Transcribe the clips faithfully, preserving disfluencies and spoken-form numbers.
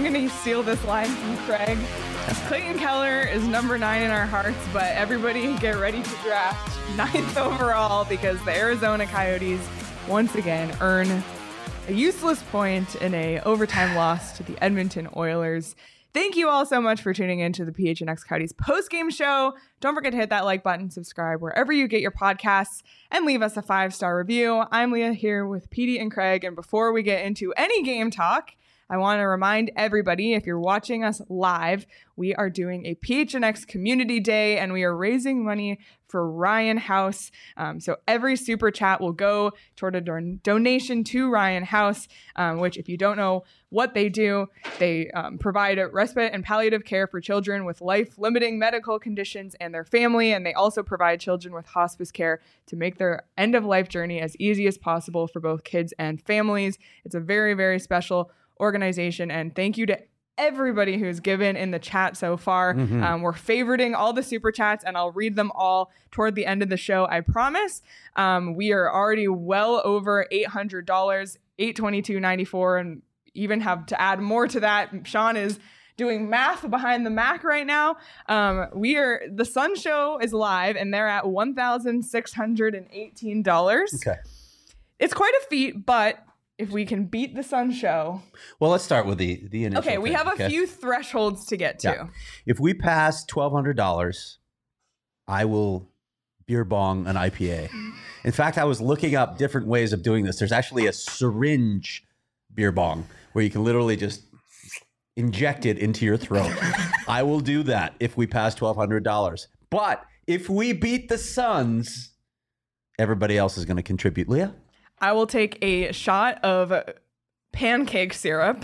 going to steal this line from Craig. Clayton Keller is number nine in our hearts, but everybody get ready to draft ninth overall because the Arizona Coyotes once again earn a useless point in a overtime loss to the Edmonton Oilers. Thank you all so much for tuning in to the P H N X Coyotes post-game show. Don't forget to hit that like button, subscribe wherever you get your podcasts, and leave us a five-star review. I'm Leah here with Petey and Craig, and before we get into any game talk, I want to remind everybody, if you're watching us live, we are doing a P H N X Community Day, and we are raising money for Ryan House. Um, so every super chat will go toward a don- donation to Ryan House, um, which, if you don't know what they do, they um, provide respite and palliative care for children with life-limiting medical conditions and their family, and they also provide children with hospice care to make their end-of-life journey as easy as possible for both kids and families. It's a very, very special organization, and thank you to everybody who's given in the chat so far. Mm-hmm. Um, we're favoriting all the super chats, and I'll read them all toward the end of the show, I promise. Um, we are already well over eight hundred dollars, eight twenty-two ninety-four, and even have to add more to that. Sean is doing math behind the Mac right now. Um, we are the Sun Show is live, and they're at one thousand six hundred eighteen dollars. Okay, it's quite a feat, but if we can beat the Sun Show. Well, let's start with the, the initial Okay, we thing, have a okay? few thresholds to get to. Yeah. If we pass twelve hundred dollars, I will beer bong an I P A. In fact, I was looking up different ways of doing this. There's actually a syringe beer bong where you can literally just inject it into your throat. I will do that if we pass twelve hundred dollars. But if we beat the Suns, everybody else is going to contribute. Leah? I will take a shot of pancake syrup.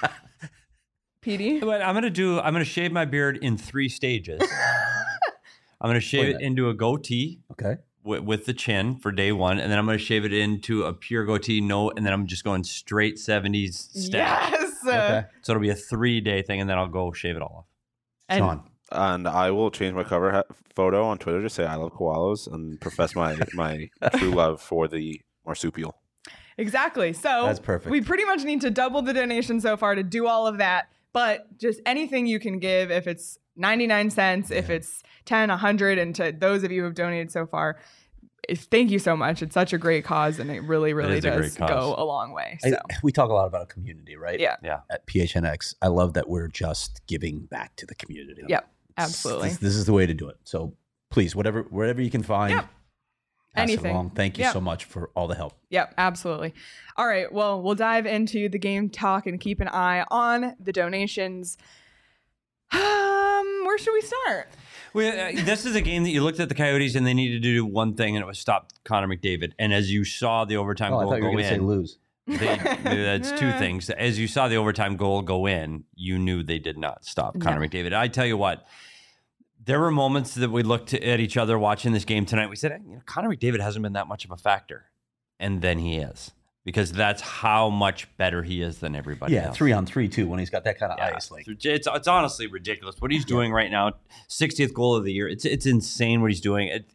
Petey? But I'm gonna do. I'm gonna shave my beard in three stages. I'm gonna shave it into a goatee. Okay. With, with the chin for day one, and then I'm gonna shave it into a pure goatee. No, and then I'm just going straight seventies stash. Yes. Okay. So it'll be a three day thing, and then I'll go shave it all off. And Sean? And I will change my cover ha- photo on Twitter to say I love koalas and profess my my true love for the marsupial. Exactly. So That's perfect. We pretty much need to double the donation so far to do all of that. But just anything you can give, if it's ninety-nine cents, yeah. if it's ten, a hundred, and to those of you who have donated so far, thank you so much. It's such a great cause, and it really, really it does a go a long way. So. I, we talk a lot about a community, right? Yeah. Yeah. At P H N X, I love that we're just giving back to the community. Yep. Absolutely. This, this is the way to do it. So please, whatever, wherever you can find, yep. pass anything. it along. Thank you yep. so much for all the help. Yep, absolutely. All right. Well, we'll dive into the game talk and keep an eye on the donations. Um, where should we start? Well, uh, this is a game that you looked at the Coyotes and they needed to do one thing, and it was stop Connor McDavid. And as you saw the overtime Oh, I goal thought you were go going to say in, lose. they, that's two things. As you saw the overtime goal go in, you knew they did not stop Connor No. McDavid. I tell you what, there were moments that we looked at each other watching this game tonight. We said, you know, Connor McDavid hasn't been that much of a factor, and then he is, because that's how much better he is than everybody Yeah, else. three on three too. When he's got that kind of Yeah. ice, like It's it's honestly ridiculous what he's doing right now. sixtieth goal of the year. It's it's insane what he's doing. It,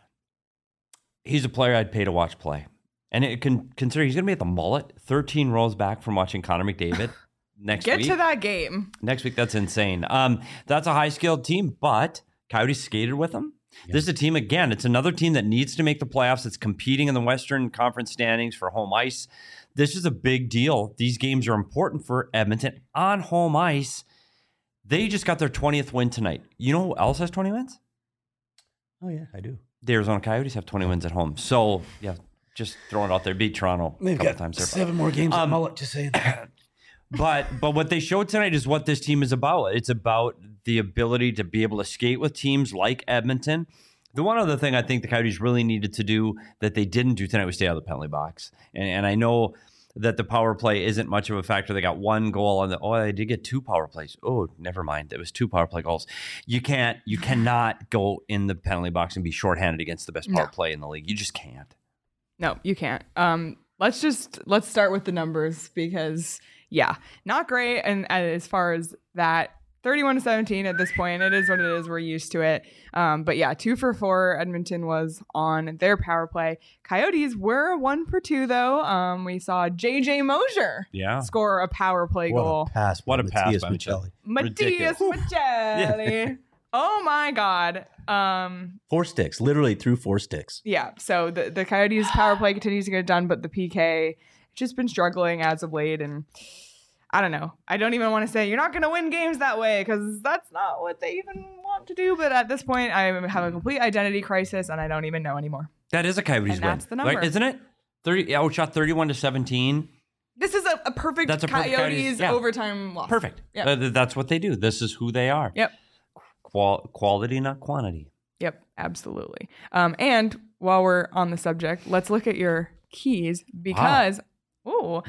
he's a player I'd pay to watch play, and it can consider he's going to be at the Mullet, thirteen rows back from watching Connor McDavid next Get week. to that game. Next week, that's insane. Um, that's a high skilled team, but Coyotes skated with them. Yeah. This is a team, again, it's another team that needs to make the playoffs. It's competing in the Western Conference standings for home ice. This is a big deal. These games are important for Edmonton on home ice. They just got their twentieth win tonight. You know who else has twenty wins? oh yeah, I do. The Arizona Coyotes have twenty wins at home. So, yeah, just throwing it out there. Beat Toronto a They've couple got times. There. seven more games Um, at Mullet. Just saying. But but what they showed tonight is what this team is about. It's about the ability to be able to skate with teams like Edmonton. The one other thing I think the Coyotes really needed to do that they didn't do tonight was stay out of the penalty box. And, and I know that the power play isn't much of a factor. They got one goal on the, oh, they did get two power plays. Oh, never mind. It was two power play goals. You can't, you cannot go in the penalty box and be shorthanded against the best power No. play in the league. You just can't. No, you can't. Um, let's just let's start with the numbers because yeah, not great. And as far as that, thirty-one to seventeen at this point. It is what it is. We're used to it. Um, but yeah, two for four. Edmonton was on their power play. Coyotes were one for two, though. Um, we saw J J Mosier Yeah. score a power play What goal. a pass! What a by pass Matias by Maccelli. Matias Maccelli. Oh my God. Um, Four sticks, literally through four sticks. yeah. So the, the Coyotes power play continues to get done, but the P K has just been struggling as of late. And I don't know. I don't even want to say you're not going to win games that way because that's not what they even want to do. But at this point, I have a complete identity crisis and I don't even know anymore. That is a Coyotes And win. that's the number. Right, isn't it? thirty outshot thirty-one to seventeen. This is a, a perfect That's a perfect Coyotes Coyotes, yeah. overtime loss. Perfect. Yep. Uh, th- that's what they do. This is who they are. Yep. Qual- quality, not quantity. Yep, absolutely. Um, and while we're on the subject, let's look at your keys because, oh,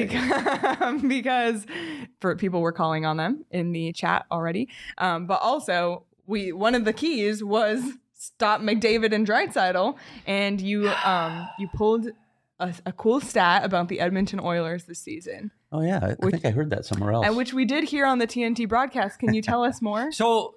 because, because for people were calling on them in the chat already. Um, but also, we one of the keys was stop McDavid and Draisaitl, and you um you pulled a, a cool stat about the Edmonton Oilers this season, Oh yeah, I, I Which- think I heard that somewhere else. and which we did hear on the T N T broadcast. Can you tell us more? So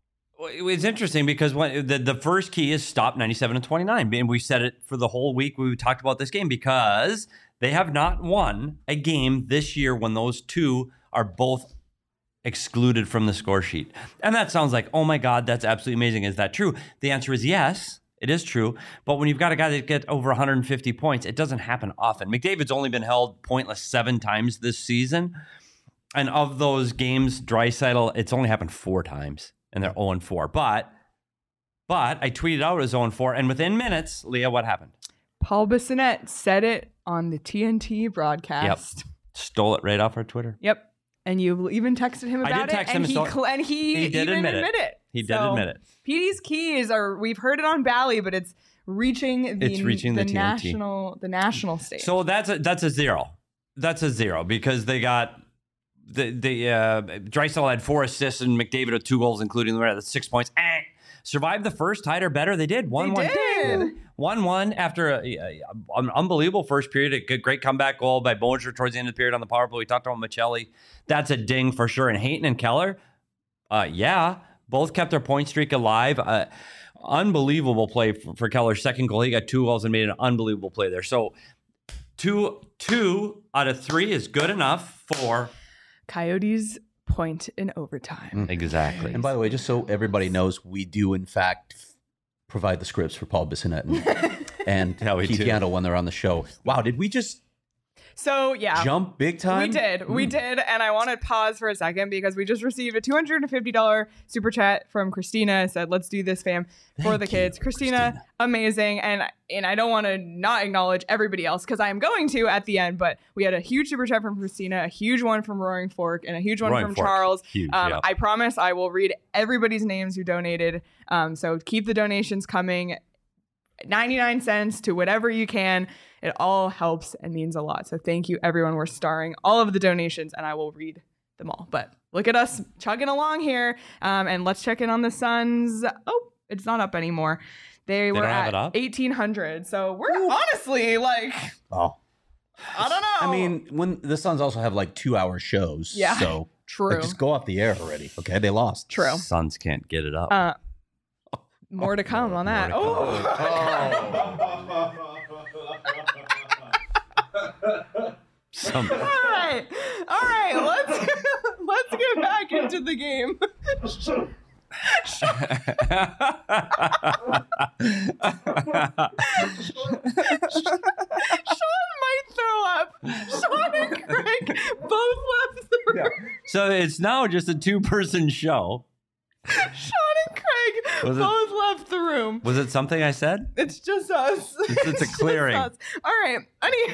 it's interesting because when the, the first key is stop ninety-seven and twenty-nine. And we said it for the whole week. We talked about this game because they have not won a game this year when those two are both excluded from the score sheet. And that sounds like, oh my God, that's absolutely amazing. Is that true? The answer is yes, it is true. But when you've got a guy that gets over one hundred fifty points, it doesn't happen often. McDavid's only been held pointless seven times this season. And of those games, Draisaitl, it's only happened four times. And they're oh and four. But, but I tweeted out it was oh and four. And within minutes, Leah, what happened? Paul Bissonnette said it on the T N T broadcast. Stole it right off our Twitter. Yep. And you even texted him I about did text it, him and and he so- cl- and he, He did even admit it. admit it. He did So, admit it. P D's keys are we've heard it on Bally, but it's reaching the It's reaching the T N T. national the national stage. So that's a, that's a zero. That's a zero because they got the the uh, Draisaitl had four assists and McDavid had two goals, including the the six points. Eh. Survived the first, tied or better. They did one They one. did. One one after a, a, an unbelievable first period. A good, great comeback goal by Bollinger towards the end of the period on the power play. We talked about Maccelli. That's a ding for sure. And Hayton and Keller, uh, yeah, both kept their point streak alive. Uh, unbelievable play for, for Keller's second goal. He got two goals and made an unbelievable play there. So two two out of three is good enough for Coyotes point in overtime. exactly. And by the way, just so everybody knows, we do in fact f- provide the scripts for Paul Bissonnette and, and Yeah, we Keith do. Yandel when they're on the show. Wow, did we just So yeah. jump big time? We did. We Hmm. did. And I want to pause for a second because we just received a two hundred fifty dollars super chat from Christina. It said, let's do this, fam, for Thank the you, kids. Christina, Christina. amazing. And and I don't want to not acknowledge everybody else because I am going to at the end. But we had a huge super chat from Christina, a huge one from Roaring Fork, and a huge one Roaring from Fork. Charles. Huge, um, yeah. I promise I will read everybody's names who donated. Um, so keep the donations coming. ninety-nine cents to whatever you can. It all helps and means a lot. So thank you, everyone. We're starring all of the donations, and I will read them all. But look at us chugging along here. Um, and let's check in on the Suns. Oh, it's not up anymore. They, were don't have at it up? eighteen hundred. So we're honestly like, Oh, I don't know. I mean, when the Suns also have like two hour shows. Yeah. So true. like, just go off the air already. Okay, they lost. True. Suns can't get it up. Uh, more to come on that. More to Oh. Some, All right, all right. Let's let's get back into the game. Sean might throw up. Sean and Craig both left the room. so it's now just a two person show. Sean and Craig Was it- both left the room. Was it something I said? It's just us. It's- it's a just clearing. us. All right. Any-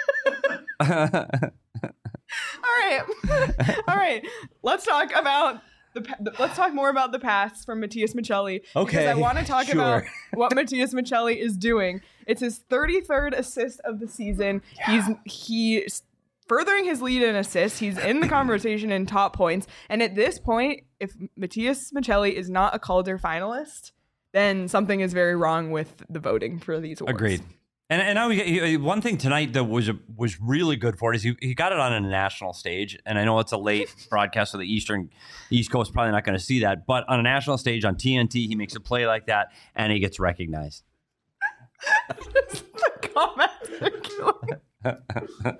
All right. All right. Let's talk about the, pa- the let's talk more about the pass from Matias Maccelli. Because Okay, I want to talk sure. about what Matias Maccelli is doing. It's his thirty-third assist of the season. He's he's furthering his lead in assists. He's in the conversation in top points. And at this point, if Matias Maccelli is not a Calder finalist, then something is very wrong with the voting for these awards. Agreed. And and now we get, he, one thing tonight that was was really good for it is he, he got it on a national stage. And I know it's a late broadcast, so the Eastern East Coast probably not going to see that. But on a national stage on T N T, he makes a play like that, and he gets recognized. The comments are killing.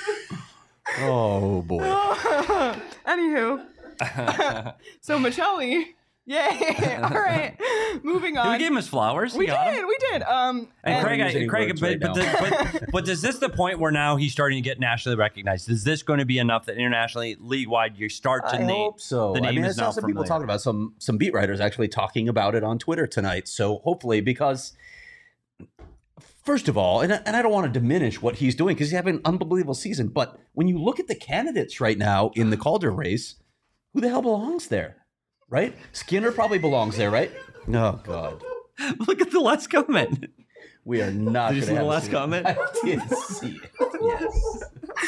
Oh boy. Anywho, so Michelli, yay! All right, moving on. We gave him his flowers. We He got did, him. we did. Um, And, and Craig, use I, any Craig, words but, right but, now. the, but, but is this the point where now he's starting to get nationally recognized? Is this going to be enough that internationally, league wide, you start to I name? hope so. The I name mean, I is saw now some people familiar. talking about some some beat writers actually talking about it on Twitter tonight. So hopefully, because first of all, and I, and I don't want to diminish what he's doing because he's having an unbelievable season. But when you look at the candidates right now in the Calder race, who the hell belongs there? Right? Skinner probably belongs there, right? Oh God, Look at the last comment. we are not. Did you gonna see the have last a- comment? I did see it. Yes.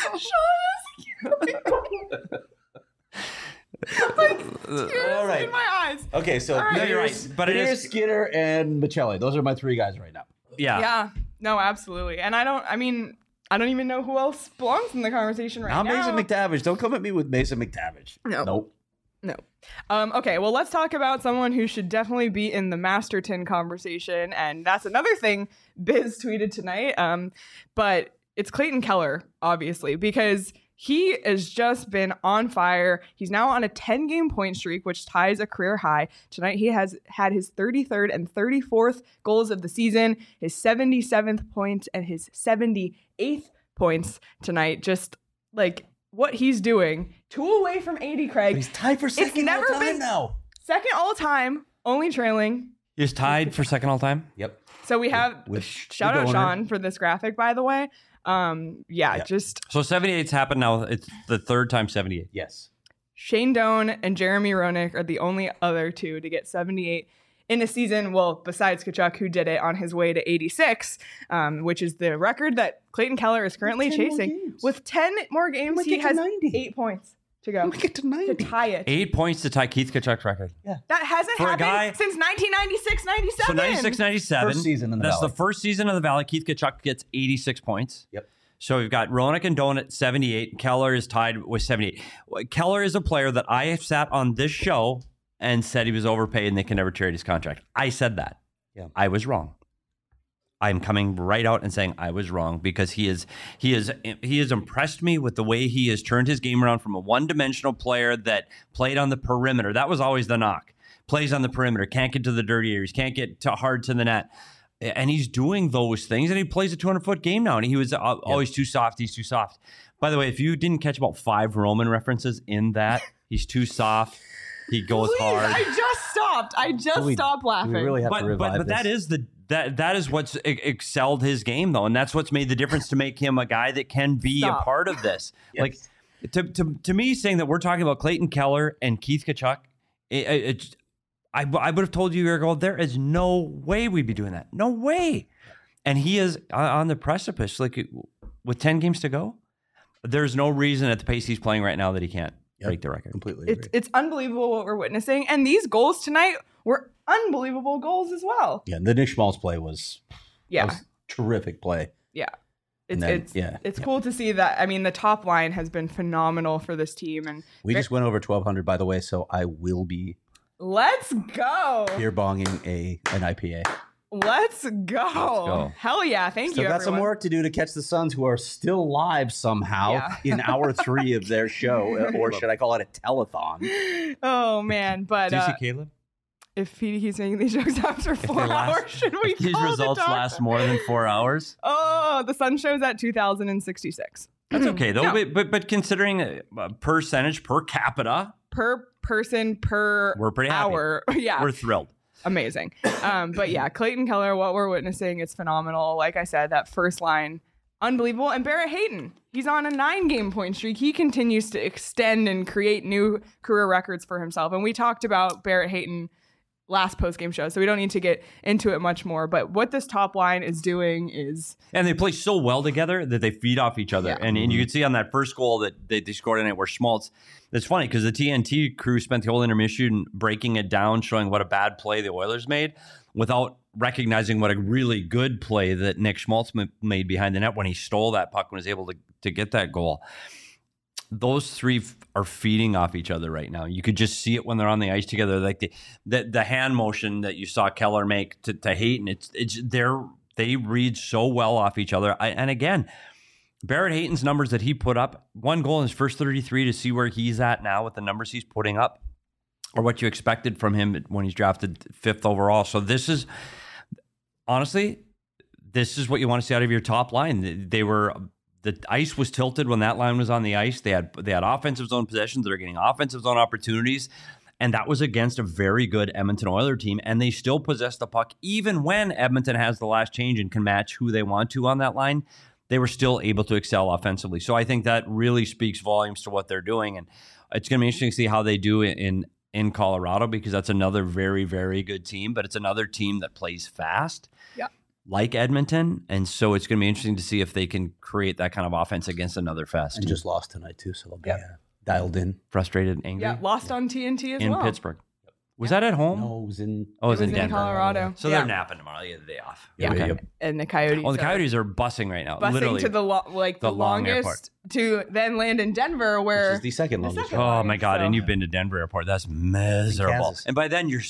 All right. in my eyes. Okay, so All right. No, you're here's- right, but it here's is- Skinner and Michelli. Those are my three guys right now. Yeah. Yeah, no, absolutely. And I don't. I mean, I don't even know who else belongs in the conversation right Now, now. Mason McTavish. Don't come at me with Mason McTavish. No. Nope. No. Um, okay, well, let's talk about someone who should definitely be in the Masterton conversation. And that's another thing Biz tweeted tonight. Um, but it's Clayton Keller, obviously, because he has just been on fire. He's now on a ten-game point streak, which ties a career high. Tonight, he has had his thirty-third and thirty-fourth goals of the season, his seventy-seventh points, and his seventy-eighth points tonight. Just like what he's doing. Two away from eighty, Craig. But he's tied for second never all time been- now. Second all time, only trailing. He's tied for second all time. Yep. So we have With shout the out donor. Sean for this graphic, by the way. Um, yeah, Yeah. just So seventy-eight's happened now. It's the third time seventy-eight. Yes. Shane Doan and Jeremy Roenick are the only other two to get seventy-eight in a season. Well, besides Tkachuk, who did it on his way to eighty-six, um, which is the record that Clayton Keller is currently ten more chasing. games. With ten more games, might he get to has ninety. eight points to go We get to to ninety. tie it. Eight points to tie Keith Tkachuk's record. That hasn't For a happened guy- since nineteen ninety-six ninety-seven. So ninety-six ninety-seven. First season in the That's Valley. the first season of the Valley. Keith Tkachuk gets eighty-six points. Yep. So we've got Roenick and Doan at seventy-eight. Keller is tied with seventy-eight. Keller is a player that I have sat on this show and said he was overpaid and they can never trade his contract. I said that. Yeah. I was wrong. I'm coming right out and saying I was wrong because he is he is he has impressed me with the way he has turned his game around from a one-dimensional player that played on the perimeter. That was always the knock. Plays on the perimeter, can't get to the dirty areas, can't get to hard to the net. And he's doing those things, and he plays a two hundred foot game now. And he was uh, always too soft. He's too soft. By the way, if you didn't catch about five Roman references in that, he's too soft. He goes Please, hard. I just stopped. I just Do we- stopped Do laughing. we really have to But revive but but this? that is the that that is what's e- excelled his game though, and that's what's made the difference to make him a guy that can be Stop. a part of this. Yes. Like to, to to me, saying that we're talking about Clayton Keller and Keith Tkachuk, it, it, it, I I would have told you a year ago there is no way we'd be doing that. No way. And he is on- on the precipice, like with ten games to go. There's no reason at the pace he's playing right now that he can't Yep. break the record. Completely It's agree. it's unbelievable what we're witnessing, and these goals tonight were unbelievable goals as well. Yeah, the Nick Schmaltz play was, Yeah, was terrific play. yeah. And It's then- it's yeah, it's yeah. cool to see that. I mean, the top line has been phenomenal for this team, and We just went over twelve hundred, by the way, so I will be let's go, beer bonging a an I P A. let's go, go. hell yeah! Thank Still you. got some everyone. work to do to catch the Suns, who are still live somehow Yeah. in hour three of their show, or should I call it a telethon? Oh man, but Do you uh, see Caleb? if he, he's making these jokes after four they last- hours, should we? If these call the results doctor? last more than four hours. Oh, the sun shows at two thousand sixty-six. That's okay though. No. But, but but considering uh, percentage per capita, Per person per we're pretty happy. hour. Yeah. We're thrilled. Amazing. Um, but yeah, Clayton Keller, what we're witnessing is phenomenal. Like I said, that first line, unbelievable. And Barrett Hayton, he's on a nine game point streak. He continues to extend and create new career records for himself. And we talked about Barrett Hayton last post-game show, so we don't need to get into it much more. But what this top line is doing is... And they play so well together that they feed off each other. Yeah. And, and you can see on that first goal that they, they scored in it where Schmaltz, it's funny because the T N T crew spent the whole intermission breaking it down, showing what a bad play the Oilers made without recognizing what a really good play that Nick Schmaltz m- made behind the net when he stole that puck and was able to, to get that goal. Those three f- are feeding off each other right now. You could just see it when they're on the ice together, like the the, the hand motion that you saw Keller make to, to Hayton. It's it's they're they read so well off each other. I, and again, Barrett Hayton's numbers that he put up, one goal in his first thirty-three, to see where he's at now with the numbers he's putting up, or what you expected from him when he's drafted fifth overall. So this is honestly, this is what you want to see out of your top line. They were. The ice was tilted when that line was on the ice. They had they had offensive zone possessions. They're getting offensive zone opportunities. And that was against a very good Edmonton Oilers team. And they still possess the puck. Even when Edmonton has the last change and can match who they want to on that line, they were still able to excel offensively. So I think that really speaks volumes to what they're doing. And it's going to be interesting to see how they do in, in Colorado, because that's another very, very good team. But it's another team that plays fast. Yeah. Like Edmonton, and so it's going to be interesting to see if they can create that kind of offense against another fast And team. just lost tonight too, so they'll be Yep. uh, dialed in. Frustrated, angry. Yeah, lost on T N T as in well. Pittsburgh. Was that at home? No, it was in. Oh, it was, It in was in Denver. Colorado. So Yeah. they're napping tomorrow. They get the day off. Yeah. Okay. Yep. And the Coyotes. Oh, the are Coyotes are busing right now. busing literally. to the lo- like the, the long airport. longest to then land in Denver, where Which is the second the longest. second one. Oh longest, my God! so- And you've been to Denver Airport. That's miserable. Kansas. And by then you're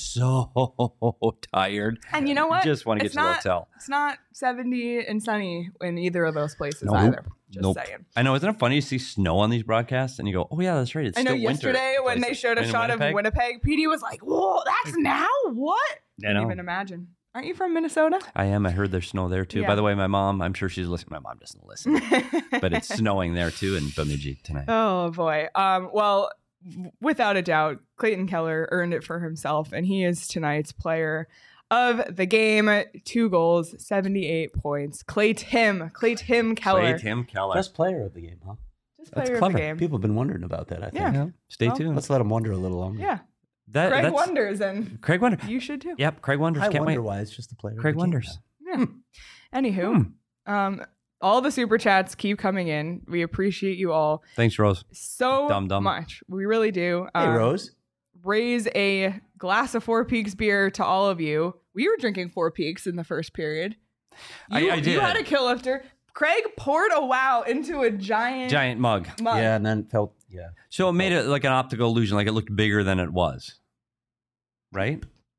so tired. And you know what? You just want to get It's to the not- hotel. It's not seventy and sunny in either of those places Nope. either. Just Nope. saying. I know. Isn't it funny to see snow on these broadcasts and you go, "Oh yeah, that's right. It's I know still winter." yesterday when they places. showed a In shot Winnipeg? of Winnipeg, P D was like, "Whoa, that's now? What?" I Can't know. even imagine. Aren't you from Minnesota? I am. I heard there's snow there too. Yeah. By the way, my mom, I'm sure she's listening. My mom doesn't listen, but it's snowing there too in Bemidji tonight. Oh boy. Um, well, w- without a doubt, Clayton Keller earned it for himself, and he is tonight's player of the game. Two goals, seventy-eight points. Clay Tim, Clay Tim Keller, Play Tim Keller. Best player of the game, huh? just That's player of clever. the game. People have been wondering about that, I think. Yeah. Yeah. Stay Well, tuned. Let's let them wonder a little longer. Yeah, That, Craig that's, Wonders, and Craig Wonder. you should too. Yep, Craig Wonders. I Can't wonder wait. why it's just the player. of Craig the game Wonders. now. Yeah. Anywho, um, all the super chats keep coming in. We appreciate you all Thanks, Rose. so Dum dum. much. We really do. Hey, Um, Rose. Raise a glass of Four Peaks beer to all of you. We were drinking Four Peaks in the first period. I- You, I You did. had a kill lifter. Craig poured a wow into a giant, Giant mug. mug. Yeah, and then felt, yeah. So it made it like an optical illusion, like it looked bigger than it was. Right?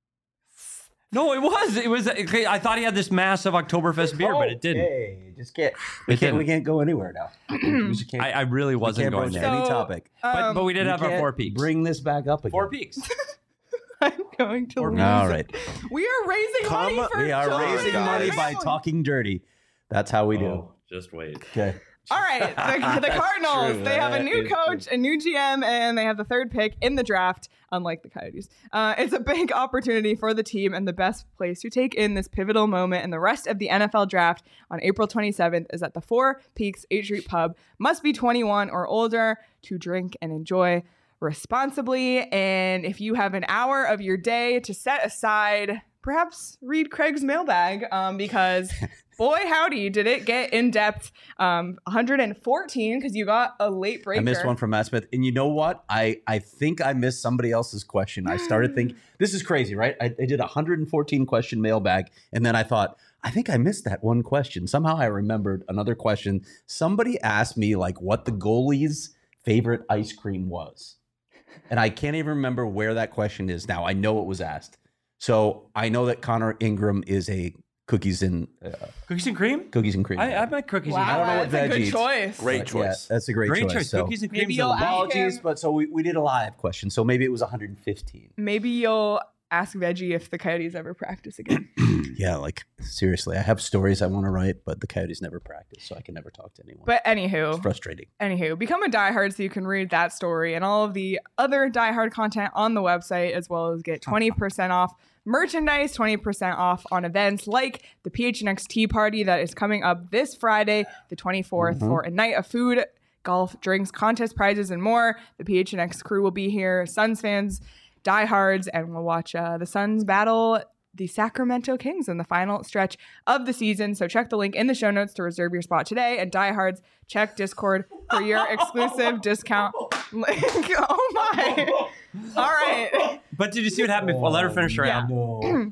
No, it was. It was. I thought he had this massive Oktoberfest beer, but it didn't. Hey, just can't. We It can't. We didn't. can't go anywhere now. we just can't. I, I really we wasn't can't going broach there. any So, topic. but, Um, but we did We have our can't four peaks. Bring this back up again. Four peaks. I'm going to Four lose. Peaks. All right. We are raising Come- money for We are children. raising guys. money by talking dirty. That's how we do. Oh, just wait. Okay. All right, the, the Cardinals, true. they have a That new is coach, a new G M, and they have the third pick in the draft, unlike the Coyotes. Uh, it's a big opportunity for the team and the best place to take in this pivotal moment and the rest of the N F L draft on April twenty-seventh is at the Four Peaks eighth Street Pub. Must be twenty-one or older to drink and enjoy responsibly. And if you have an hour of your day to set aside, perhaps read Craig's mailbag um, because boy, howdy, did it get in depth. Um, one hundred fourteen because you got a late breaker. I missed one from Matt Smith. And you know what? I, I think I missed somebody else's question. I started thinking, this is crazy, right? I, I did a one hundred fourteen question mailbag. And then I thought, I think I missed that one question. Somehow I remembered another question. Somebody asked me like what the goalie's favorite ice cream was. And I can't even remember where that question is now. I know it was asked. So I know that Connor Ingram is a cookies and uh, Cookies and cream? cookies and cream. I, I like cookies Wow, and I cream. don't know what that's a veg good eats. choice. Great But, choice. Yeah, that's a great, Great choice. choice. So, Cookies and cream. Maybe is you'll a ask lot. apologies, him. but so we, we did a live question. So maybe it was one hundred fifteen. Maybe you'll ask Veggie if the Coyotes ever practice again. Yeah, like seriously, I have stories I want to write, but the Coyotes never practice, so I can never talk to anyone. But it's anywho, frustrating. anywho, become a diehard so you can read that story and all of the other diehard content on the website, as well as get twenty percent off merchandise, twenty percent off on events like the P H N X Tea Party that is coming up this Friday, the twenty-fourth, Mhm. for a night of food, golf, drinks, contest prizes, and more. The P H N X crew will be here. Suns fans diehards, and we'll watch uh, the Suns battle the Sacramento Kings in the final stretch of the season. So check the link in the show notes to reserve your spot today. And diehards, check Discord for your exclusive discount link. Oh my. All right. But did you see what happened before? Let her finish her Yeah. round. No.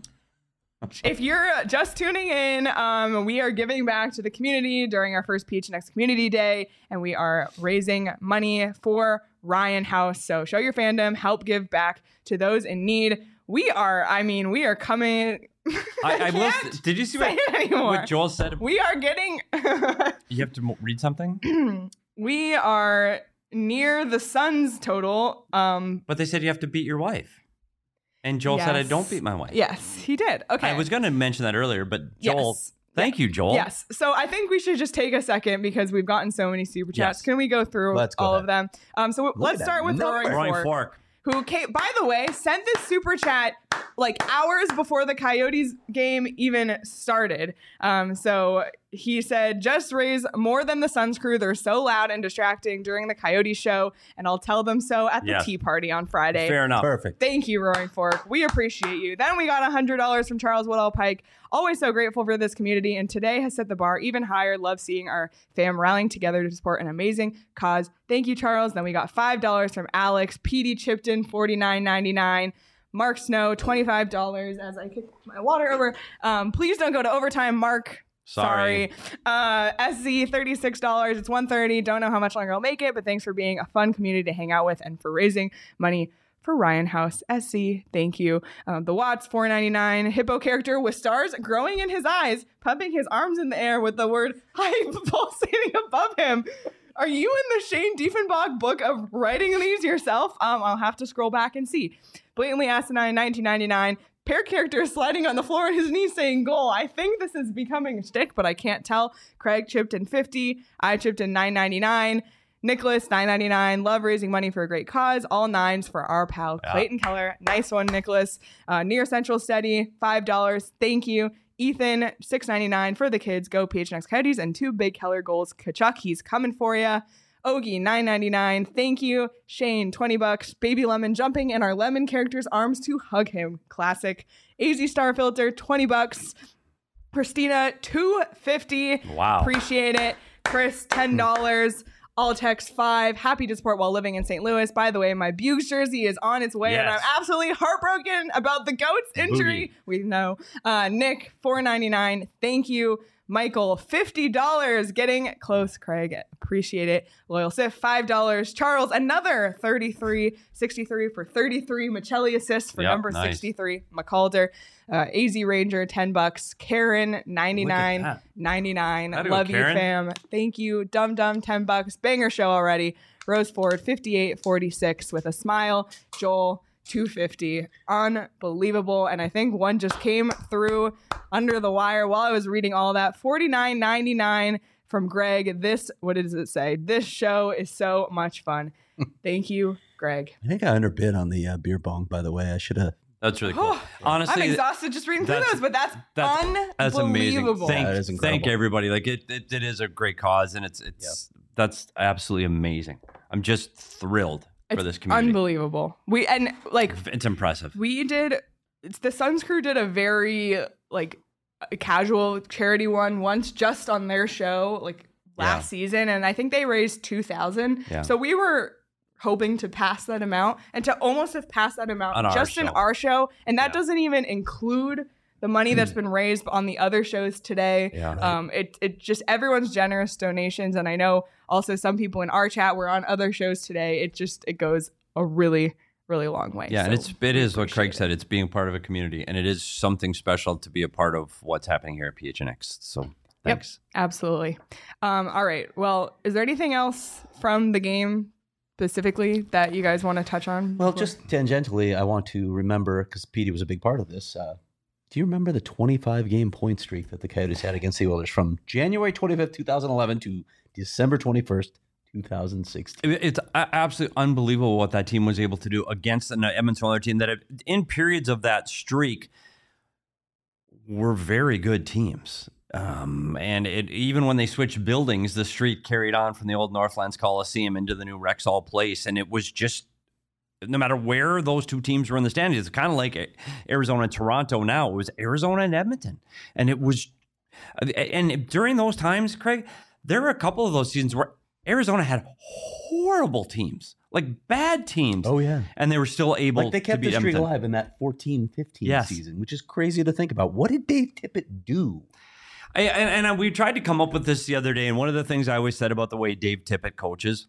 If you're just tuning in, um, we are giving back to the community during our first P H N X Community Day, and we are raising money for Ryan House. So show your fandom, help give back to those in need. We are, I mean, we are coming. I, I will. can't Did you see say what, it anymore. what Joel said? We are getting, You have to mo- read something? we are near the Suns total. Um, But they said you have to beat your wife. And Joel said, I Yes. don't beat my wife. yes, he did. Okay. I was going to mention that earlier, but Joel, Yes. thank you, Joel. Yes. So I think we should just take a second because we've gotten so many super chats. Yes. Can we go through Let's go all ahead. of them? Um, so Look let's at start that with number. Roaring Roaring Fork, Fork. who came, by the way, sent this super chat like hours before the Coyotes game even started. Um, so he said, just raise more than the Suns crew. They're so loud and distracting during the Coyotes show, and I'll tell them so at the Yes. tea party on Friday. Fair enough. Perfect. Thank you, Roaring Fork. We appreciate you. Then we got one hundred dollars from Charles Woodall Pike. Always so grateful for this community, and today has set the bar even higher. Love seeing our fam rallying together to support an amazing cause. Thank you, Charles. Then we got five dollars from Alex. P D Chipton, forty-nine ninety-nine. Mark Snow, twenty-five dollars as I kick my water over. Um, please don't go to overtime, Mark. Sorry. Sorry. Uh, S Z, thirty-six dollars. It's one thirty. Don't know how much longer I'll make it, but thanks for being a fun community to hang out with and for raising money for Ryan House. S C, thank you. Um, the Watts, four ninety-nine. Hippo character with stars growing in his eyes, pumping his arms in the air with the word hype pulsating above him. Are you in the Shane Diefenbach book of writing these yourself? Um, I'll have to scroll back and see. Blatantly Asinine, nineteen ninety-nine. Pair character is sliding on the floor on his knees saying goal. I think this is becoming a shtick, but I can't tell. Craig chipped in fifty. I chipped in nine ninety-nine. Nicholas, nine ninety-nine. Love raising money for a great cause. All nines for our pal Yeah. Clayton Keller. Nice one, Nicholas. Uh, Near Central Steady, five dollars. Thank you. Ethan, six ninety-nine for the kids. Go P H N X Coyotes and two big Keller goals. Kachuk, he's coming for ya. Ogie, nine ninety-nine. Thank you. Shane, twenty bucks. Baby Lemon jumping in our lemon character's arms to hug him. Classic. A Z Star Filter, twenty bucks. Christina, two fifty. Wow. Appreciate it. Chris, ten dollars. Alltex five. Happy to support while living in Saint Louis. By the way, my Bugs jersey is on its way, and I'm Yes. absolutely heartbroken about the goat's injury. Boogie. We know. Uh, Nick, four ninety-nine. Thank you. Michael, fifty dollars. Getting close, Craig. Appreciate it. Loyal Sif, five dollars. Charles, another thirty-three sixty-three for thirty-three. Michelli assists for Yep, number nice. sixty-three. McCalder. Uh, A Z Ranger, ten bucks. Karen, ninety-nine that. ninety-nine. How'd it go, Love you, Karen? fam. Thank you. Dum Dum, ten bucks. Banger show already. Rose Ford, fifty-eight forty-six with a smile. Joel, two fifty. Unbelievable. And I think one just came through under the wire while I was reading all that. forty-nine ninety-nine from Greg. This, what does it say? This show is so much fun. Thank you, Greg. I think I underbid on the uh, beer bong, by the way. I should have. That's really cool. Oh, Honestly, I'm exhausted just reading through that's- those, but that's, that's- that's amazing. unbelievable. Thank, That is thank incredible. everybody. Like it, it, it is a great cause, and it's it's that's absolutely amazing. I'm just thrilled for It's this community. unbelievable. We and like It's impressive. we did. It's the Suns crew did a very like a casual charity one once just on their show like last Yeah. season, and I think they raised two thousand. Yeah. So we were hoping to pass that amount and to almost have passed that amount On our just in show. our show, and that Yeah. doesn't even include the money that's been raised on the other shows today. Yeah. Right. Um, it it just everyone's generous donations, and I know also some people in our chat were on other shows today. It just it goes a really really long way. Yeah, and So it's it we is what Craig appreciate said. It's being part of a community, and it is something special to be a part of what's happening here at P H N X. So thanks. Absolutely. Um, all right. Well, is there anything else from the game specifically that you guys want to touch on? Well, before- just tangentially, I want to remember, because Petey was a big part of this. Uh, do you remember the twenty-five game point streak that the Coyotes had against the Oilers from January twenty-fifth, twenty eleven to December twenty-first, twenty sixteen? It- It's a- absolutely unbelievable what that team was able to do against an Edmonton Oilers team that, have, in periods of that streak, were very good teams. Um, and it, even when they switched buildings, the streak carried on from the old Northlands Coliseum into the new Rexall Place, and it was just no matter where those two teams were in the standings. It's kind of like Arizona and Toronto now. It was Arizona and Edmonton. And it was, and during those times, Craig, there were a couple of those seasons where Arizona had horrible teams, like bad teams. Oh, yeah. And they were still able Like they kept to beat the streak Edmonton. alive in that fourteen fifteen Yes. season, which is crazy to think about. What did Dave Tippett do? I, and, and we tried to come up with this the other day. And one of the things I always said about the way Dave Tippett coaches,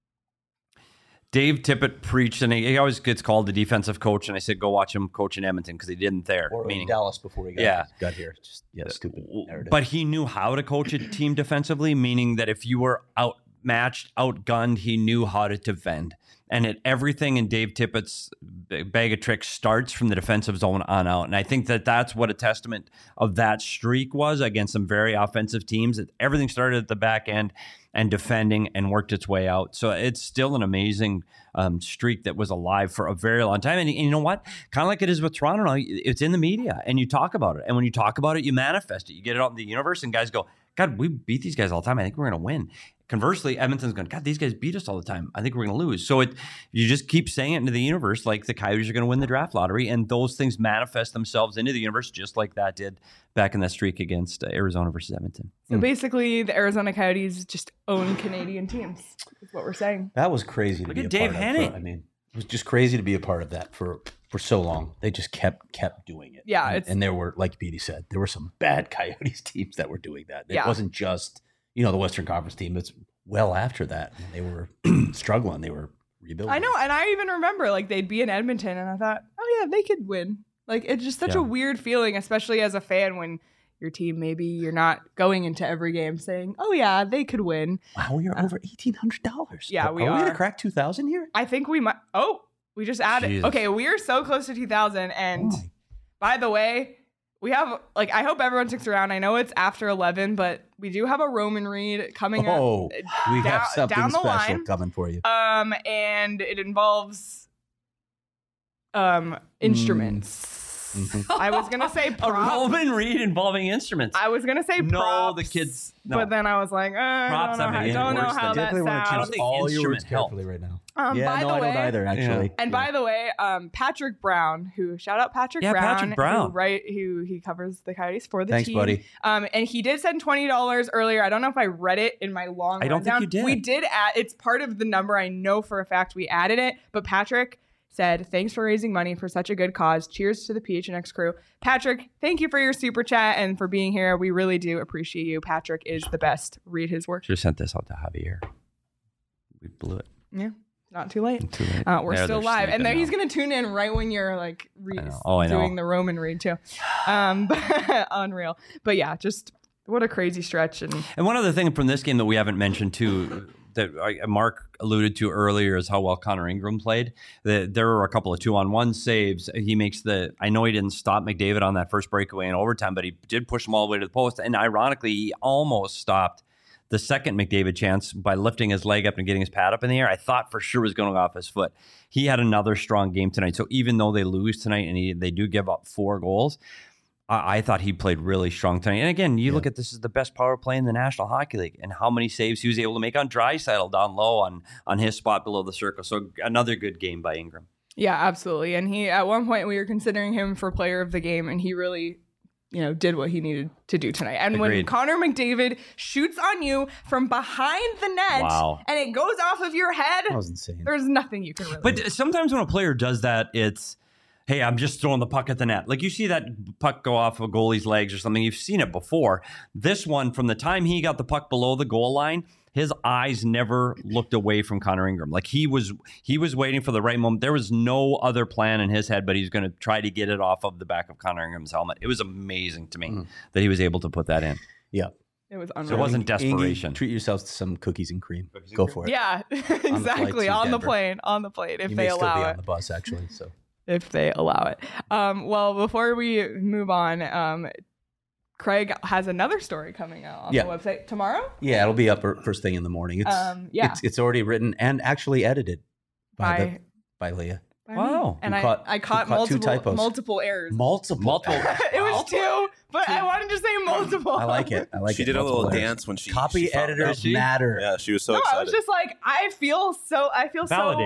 Dave Tippett preached, and he, he always gets called the defensive coach. And I said, go watch him coach in Edmonton because he didn't there. Or meaning, in Dallas before he got, Yeah. got here. Just, yeah, stupid narrative. But he knew how to coach a team defensively, meaning that if you were outmatched, outgunned, he knew how to defend. And it, everything in Dave Tippett's bag of tricks starts from the defensive zone on out. And I think that that's what a testament of that streak was against some very offensive teams. That everything started at the back end and defending and worked its way out. So it's still an amazing um, streak that was alive for a very long time. And, and you know what? Kind of like it is with Toronto now, it's in the media and you talk about it. And when you talk about it, you manifest it. You get it out in the universe and guys go, God, we beat these guys all the time. I think we're going to win. Conversely, Edmonton's going, God, these guys beat us all the time. I think we're going to lose. So it, you just keep saying it into the universe, like the Coyotes are going to win the draft lottery, and those things manifest themselves into the universe, just like that did back in that streak against uh, Arizona versus Edmonton. So basically, the Arizona Coyotes just own Canadian teams. Is what we're saying. That was crazy to Look be at a Dave part Henning. of. For, I mean, it was just crazy to be a part of that for for so long. They just kept kept doing it. Yeah, and, it's- and there were, like Petey said, there were some bad Coyotes teams that were doing that. It Yeah. wasn't just, you know, the Western Conference team. It's well after that. They were struggling. They were rebuilding. I know, and I even remember like they'd be in Edmonton, and I thought, oh yeah, they could win. Like it's just such Yeah. a weird feeling, especially as a fan when your team maybe you're not going into every game saying, oh yeah, they could win. Wow, we are over eighteen hundred dollars. Yeah, we are. we are. gonna crack two thousand here? I think we might. Oh, we just added. Jesus. Okay, we are so close to two thousand. And Oh my- by the way, we have like I hope everyone sticks around. I know it's after eleven, but we do have a Roman Read coming Oh, up. we down- have something down the special line. coming for you. Um, and it involves um instruments. Mhm. I was gonna say A props. Roman Read involving instruments. I was gonna say No, props, the kids- no. But then I was like, uh, I Props, don't know, I how, mean, don't know worse how than- that Definitely want to I don't sounds. choose think all your words instrument helped. carefully right now. Um, yeah, by no, the I way, don't either. Actually, And by the way, um, Patrick Brown, who shout out Patrick Yeah, Brown, Patrick Brown. who, right, who he covers the Coyotes for the Thanks, team. buddy. Um, and he did send twenty dollars earlier. I don't know if I read it in my long. I don't think rundown. you did. We did add. It's part of the number. I know for a fact we added it. But Patrick said, "Thanks for raising money for such a good cause. Cheers to the P H N X crew." Patrick, thank you for your super chat and for being here. We really do appreciate you. Patrick is the best. Read his work. Should have sent this out to Javier. We blew it. Yeah, not too late. Too late. Uh, we're There, still they're live, and sleeping then he's now. gonna tune in right when you're like re- I know. Oh, I know. doing the Roman read too. Um, unreal. But yeah, just what a crazy stretch. And And one other thing from this game that we haven't mentioned too, that I- Mark alluded to earlier, is how well Connor Ingram played. The, there were a couple of two-on-one saves. He makes the. I know he didn't stop McDavid on that first breakaway in overtime, but he did push him all the way to the post. And ironically, he almost stopped the second McDavid chance by lifting his leg up and getting his pad up in the air. I thought for sure was going to go off his foot. He had another strong game tonight. So even though they lose tonight and he, they do give up four goals, I, I thought he played really strong tonight. And again, you Yeah. look at this as the best power play in the National Hockey League and how many saves he was able to make on Draisaitl down low on, on his spot below the circle. So another good game by Ingram. yeah, absolutely. And he at one point we were considering him for player of the game, and he really, you know, did what he needed to do tonight. And when Agreed. Connor McDavid shoots on you from behind the net, Wow. and it goes off of your head, that was insane. there's nothing you can really. But do. sometimes when a player does that, it's, hey, I'm just throwing the puck at the net. Like you see that puck go off a goalie's legs or something. You've seen it before. This one, from the time he got the puck below the goal line, his eyes never looked away from Connor Ingram. Like he was he was waiting for the right moment. There was no other plan in his head, but he's going to try to get it off of the back of Connor Ingram's helmet. It was amazing to me Mm. that he was able to put that in. Yeah. It was So unreal. it wasn't Ingy, desperation. treat yourselves to some cookies and cream. Cookies and Go cream? for it. Yeah, flight exactly. to On the Denver. plane, on the plane, if you they may still be allow on it. the bus, actually. So If they allow it. Um, well, before we move on, um, Craig has another story coming out on Yeah. the website tomorrow. yeah, it'll be up er- first thing in the morning. It's Um, yeah. it's, it's already written and actually edited by By, the, by Leah. by Wow. me. And Who I, caught- I who caught, caught two multiple typos. multiple errors. Multiple. Multiple. It was two, but I wanted to say multiple. I like it. I like she it. did a little Multiple errors. dance when she Copy she found editors out. Did she? matter. Yeah, she was so No, I excited. was just like, I feel so. I feel Validated.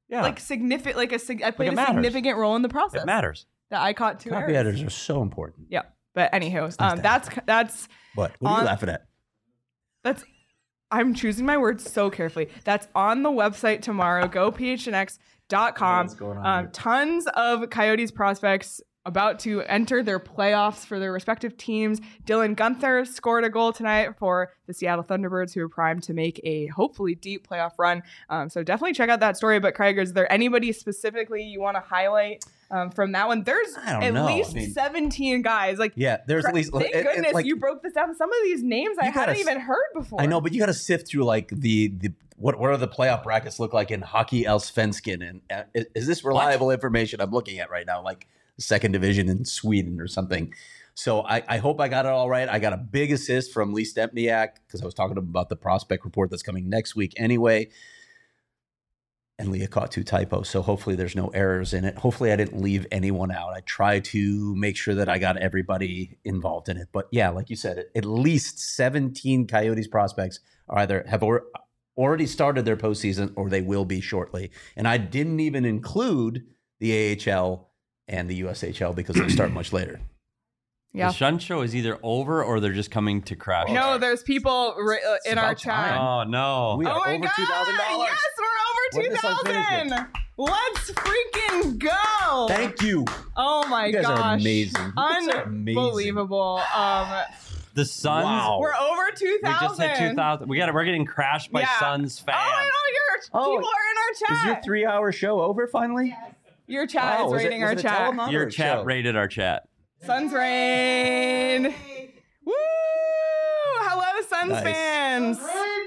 Yeah. like significant, like a sig- I played it a matters. significant role in the process. It matters. That I caught two Copy errors. editors are so important. Yeah, but anywho, nice um, to that's that's What? What are On- you laughing at? that's. I'm choosing my words so carefully. That's on the website tomorrow. Go P H N X dot com. What's going on Um, here? tons of Coyotes prospects about to enter their playoffs for their respective teams. Dylan Guenther scored a goal tonight for the Seattle Thunderbirds, who are primed to make a hopefully deep playoff run. Um, so definitely check out that story. But Craig, is there anybody specifically you want to highlight um, from that one? There's I don't at know. least I mean- seventeen guys. Like, Yeah, there's at least. thank it- it- goodness like, you broke this down. Some of these names I You gotta hadn't s- even heard before. I know, but you got to sift through like the the what what are the playoff brackets look like in Hockey Allsvenskan, and uh, is, is this reliable information I'm looking at right now? Like the second division in Sweden or something. So I, I hope I got it all right. I got a big assist from Lee Stempniak because I was talking to him about the prospect report that's coming next week anyway. And Leah caught two typos, so hopefully there's no errors in it. Hopefully I didn't leave anyone out. I try to make sure that I got everybody involved in it. But yeah, like you said, at least seventeen Coyotes prospects are either have or, already started their postseason or they will be shortly. And I didn't even include the A H L and the U S H L because they start much later. Yeah. The Shun Show is either over or they're just coming to crash. No, there's people ri- uh, in It's our about chat. time. Oh no. We Oh are my over God! two thousand dollars. Yes, we're When over this two unfinished thousand. Let's freaking go! Thank you. Oh my You guys gosh, are amazing. You guys are amazing. unbelievable. Um, The Suns. Wow. we're over two We thousand. just hit two thousand. We got it. We're getting crashed by Yeah. Suns fans. Oh, I know your Oh, people are in our Is your chat. three-hour show over finally? Your chat Wow, is was it- rating was our it a chat. telenovela? Your Or chat show? rated our chat. Suns rain. Woo! Hello, Suns Nice. fans.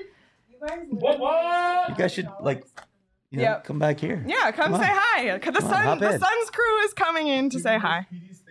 You guys should like, you know, Yep. come back here. Yeah, come, Come say on. hi. The Come on, Sun, hop the in. Suns crew is coming in to say hi.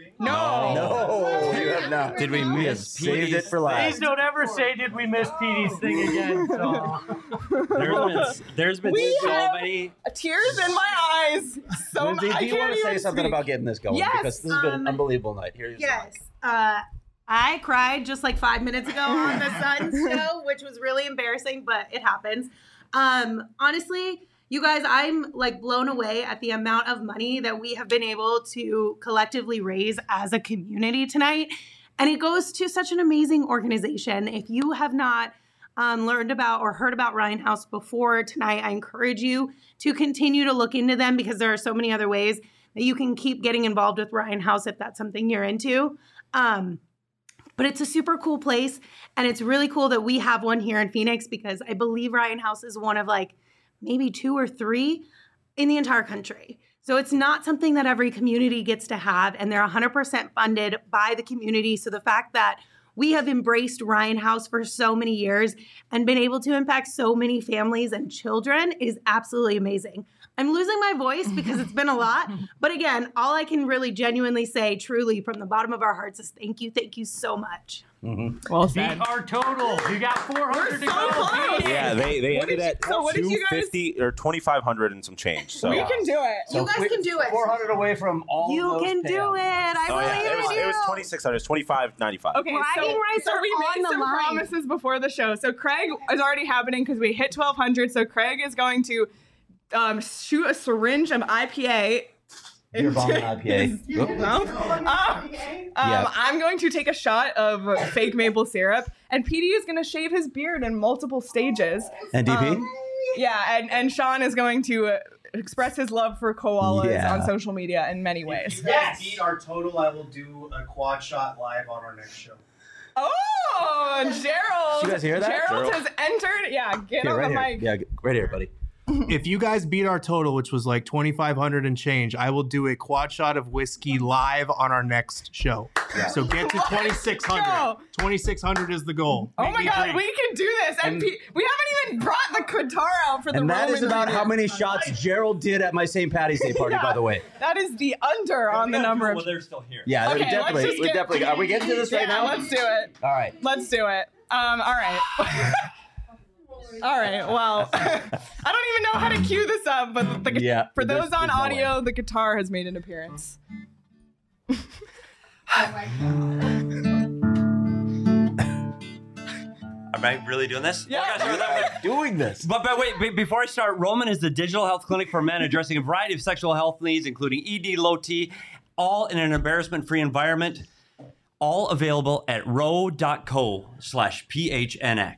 No. No, you have not. Did we We have miss saved Petey's it for last. Please don't ever say, did we miss Petey's thing again? So. There's been, there's been We so have- many. Tears in my eyes. So Lindsay, I do you can't want to say even something speak. about getting this going? Yes, Because this has been an um, unbelievable night. Here's Yes. Uh, I cried just like five minutes ago on the Suns show, which was really embarrassing, but it happens. Um, honestly, you guys, I'm like blown away at the amount of money that we have been able to collectively raise as a community tonight. And it goes to such an amazing organization. If you have not um, learned about or heard about Ryan House before tonight, I encourage you to continue to look into them because there are so many other ways that you can keep getting involved with Ryan House if that's something you're into. Um, but it's a super cool place, and it's really cool that we have one here in Phoenix because I believe Ryan House is one of like maybe two or three in the entire country. So it's not something that every community gets to have, and they're one hundred percent funded by the community. So the fact that we have embraced Ryan House for so many years and been able to impact so many families and children is absolutely amazing. I'm losing my voice because it's been a lot. But again, all I can really genuinely say, truly, from the bottom of our hearts is thank you, thank you so much. Well Beat said. our total. You got four hundred to so go. close. Yeah, they they What ended did you- at so what did you two guys- fifty or twenty five hundred and some change. So We can do it. You guys can do it. four hundred away from all You those can do payouts. it. I Oh, yeah, believe it was in you. it was twenty six hundred. It's twenty five ninety five. Okay, Bragging so, rights so are we on made the some line. promises before the show. So Craig is already happening because we hit twelve hundred. So Craig is going to um, shoot a syringe of I P A. Beer bomb and I P A. No? Um, um, Yeah. I'm going to take a shot of fake maple syrup, and P D is going to shave his beard in multiple stages. And D P? Um, yeah, and, and Sean is going to uh, express his love for koalas Yeah. on social media in many If ways. you guys beat our total, I will do a quad shot live on our next show. Oh, Gerald! Did you guys hear that? Gerald, Gerald? has entered. Yeah, get Yeah, on right the here. mic. Yeah, right here, buddy. If you guys beat our total, which was like twenty-five hundred and change, I will do a quad shot of whiskey live on our next show. So get to twenty-six hundred. go. twenty-six hundred is the goal. Oh Make my me God, drink. we can do this, and, And- P- we haven't even brought the guitar out for the And that Roman is about reading. how many shots Gerald did at my Saint Patty's Day party, Yeah. by the way. That is the under on the number of. Well, they're still here. Yeah, Okay, we're definitely, let's just we're get- definitely. Are we getting to this right Yeah, now? let's do it. All right. Let's do it. Um, all right. All right. Well, I don't even know how to cue this up, but the, the, Yeah, for there's- those on there's no audio, the guitar has made an appearance. I'm Am I really doing this? Yeah. I gotta start with that. Doing this. But, but wait, be- before I start, Roman is the digital health clinic for men addressing a variety of sexual health needs, including E D, low T, all in an embarrassment-free environment. All available at row.co slash PHNX.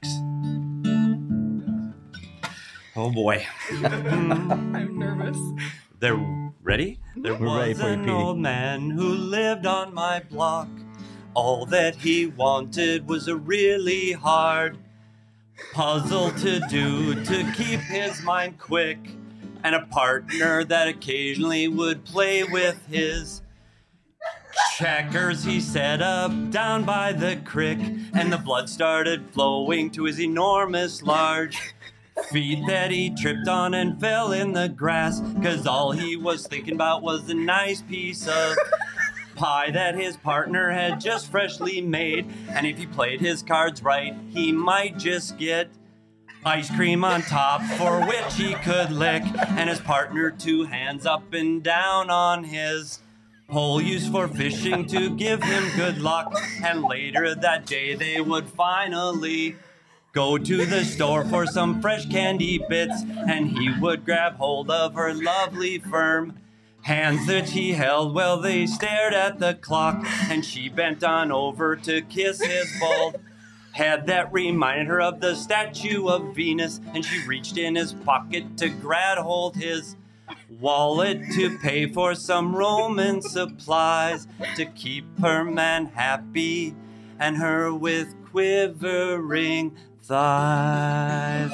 Oh boy. I'm nervous. They're ready? There We're was ready for you, an Petey. old man who lived on my block. All that he wanted was a really hard puzzle to do to keep his mind quick, and a partner that occasionally would play with his checkers. He set up down by the creek, and the blood started flowing to his enormous large feet that he tripped on and fell in the grass, cause all he was thinking about was the nice piece of pie that his partner had just freshly made. And if he played his cards right, he might just get ice cream on top, for which he could lick, and his partner two hands up and down on his pole used for fishing to give him good luck. And later that day they would finally go to the store for some fresh candy bits, and he would grab hold of her lovely firm hands that he held while they stared at the clock, and she bent on over to kiss his bald head that reminded her of the statue of Venus, and she reached in his pocket to grab hold his wallet to pay for some Roman supplies to keep her man happy and her with quivering thighs.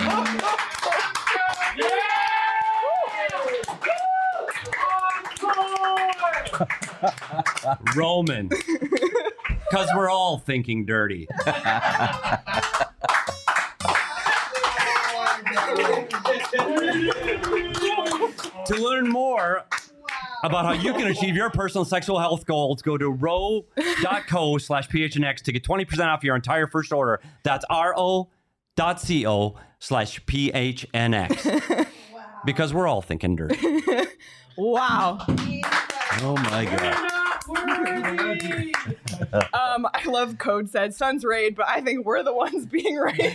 Roman, because we're all thinking dirty. To learn more about how you can achieve your personal sexual health goals, go to row.co slash PHNX to get twenty percent off your entire first order. That's ro.co slash PHNX. Because we're all thinking dirty. Wow. Oh my god. Um, I love Code said Suns raid, but I think we're the ones being raided.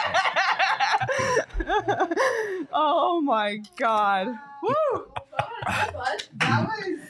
Oh my god. Woo! That was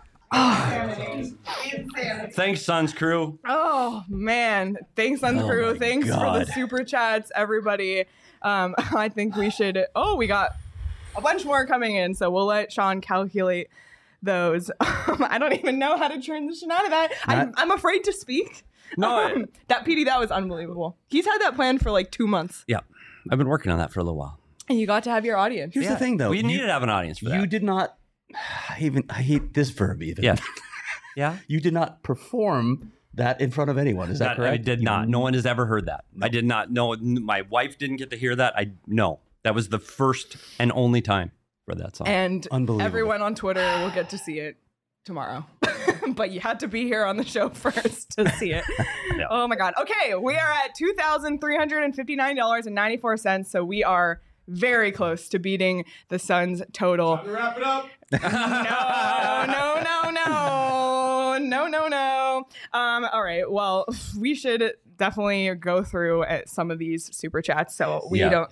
insanity. Insanity. Thanks, Suns crew. Oh man. Thanks, Suns Oh crew. my Thanks for the God. super chats, everybody. Um, I think we should. Oh, we got a bunch more coming in, so we'll let Sean calculate those. Um, I don't even know how to transition out of that. I'm, Not- I'm afraid to speak. No, I- Um, that P D, that was unbelievable. He's had that planned for like two months, Yeah, I've been working on that for a little while. and you got to have your audience. Here's the thing, though. We You- needed to have an audience for that. You did not. I even I hate this verb even. Yeah. Yeah? You did not perform that in front of anyone. Is that, That- I correct? did not. No one has ever heard that. I did not know. My wife didn't get to hear that. I no. That was the first and only time for that song. And Unbelievable. everyone on Twitter will get to see it tomorrow. But you had to be here on the show first to see it. Yeah. Oh my God. Okay, we are at two thousand three hundred fifty-nine dollars and ninety-four cents. So we are very close to beating the Suns total. Wrap it up. No, no, no, no, no, no, no. Um, all right. Well, we should definitely go through at some of these super chats so we Yeah. don't.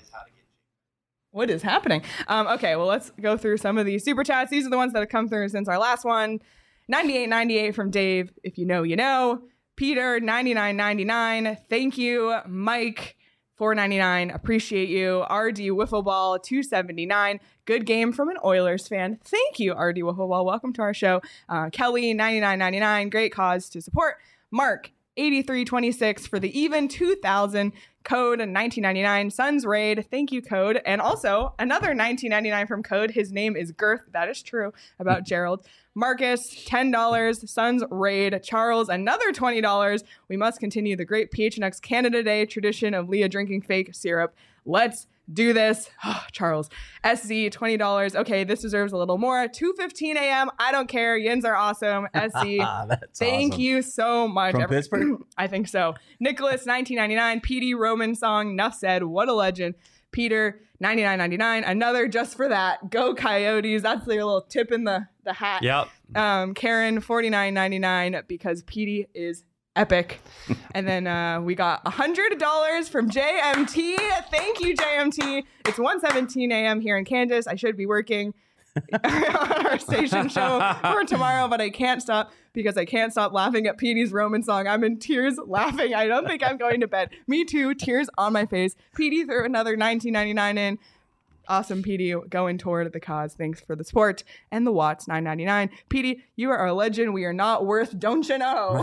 What is happening? Um, okay, well, let's go through some of these super chats. These are the ones that have come through since our last one. ninety-eight ninety-eight from Dave. If you know, you know. Peter, ninety-nine ninety-nine. Thank you. Mike, four ninety-nine. Appreciate you. R D Wiffleball, two seventy-nine. Good game from an Oilers fan. Thank you, R D Wiffleball. Welcome to our show. Uh, Kelly, ninety-nine ninety-nine. Great cause to support. Mark, eighty-three twenty-six for the even two thousand. Code nineteen ninety-nine. Suns Raid. Thank you, Code. And also another nineteen ninety-nine from Code. His name is Girth. That is true about Gerald. Marcus, ten dollars. Suns Raid. Charles, another twenty dollars. We must continue the great P H N X Canada Day tradition of Leah drinking fake syrup. Let's do this. Oh, Charles. S Z, twenty dollars. Okay, this deserves a little more. two fifteen a.m. I don't care. Yins are awesome. S Z. That's Thank awesome. you so much. From Every- Pittsburgh? I think so. Nicholas, nineteen ninety-nine. P D Roman song. Nuff said. What a legend. Peter, ninety-nine ninety-nine. Another just for that. Go Coyotes. That's their little tip in the, the hat. Yep. Um, Karen, forty-nine ninety-nine because P D is epic. And then uh, we got one hundred dollars from J M T. Thank you, J M T. It's one seventeen a.m. here in Kansas. I should be working on our station show for tomorrow, but I can't stop because I can't stop laughing at Petey's Roman song. I'm in tears laughing. I don't think I'm going to bed. Me too. Tears on my face. Petey threw another nineteen ninety-nine in. Awesome, Petey, going toward the cause. Thanks for the support and the watts, nine ninety-nine. Petey, you are a legend. We are not worth, don't you know?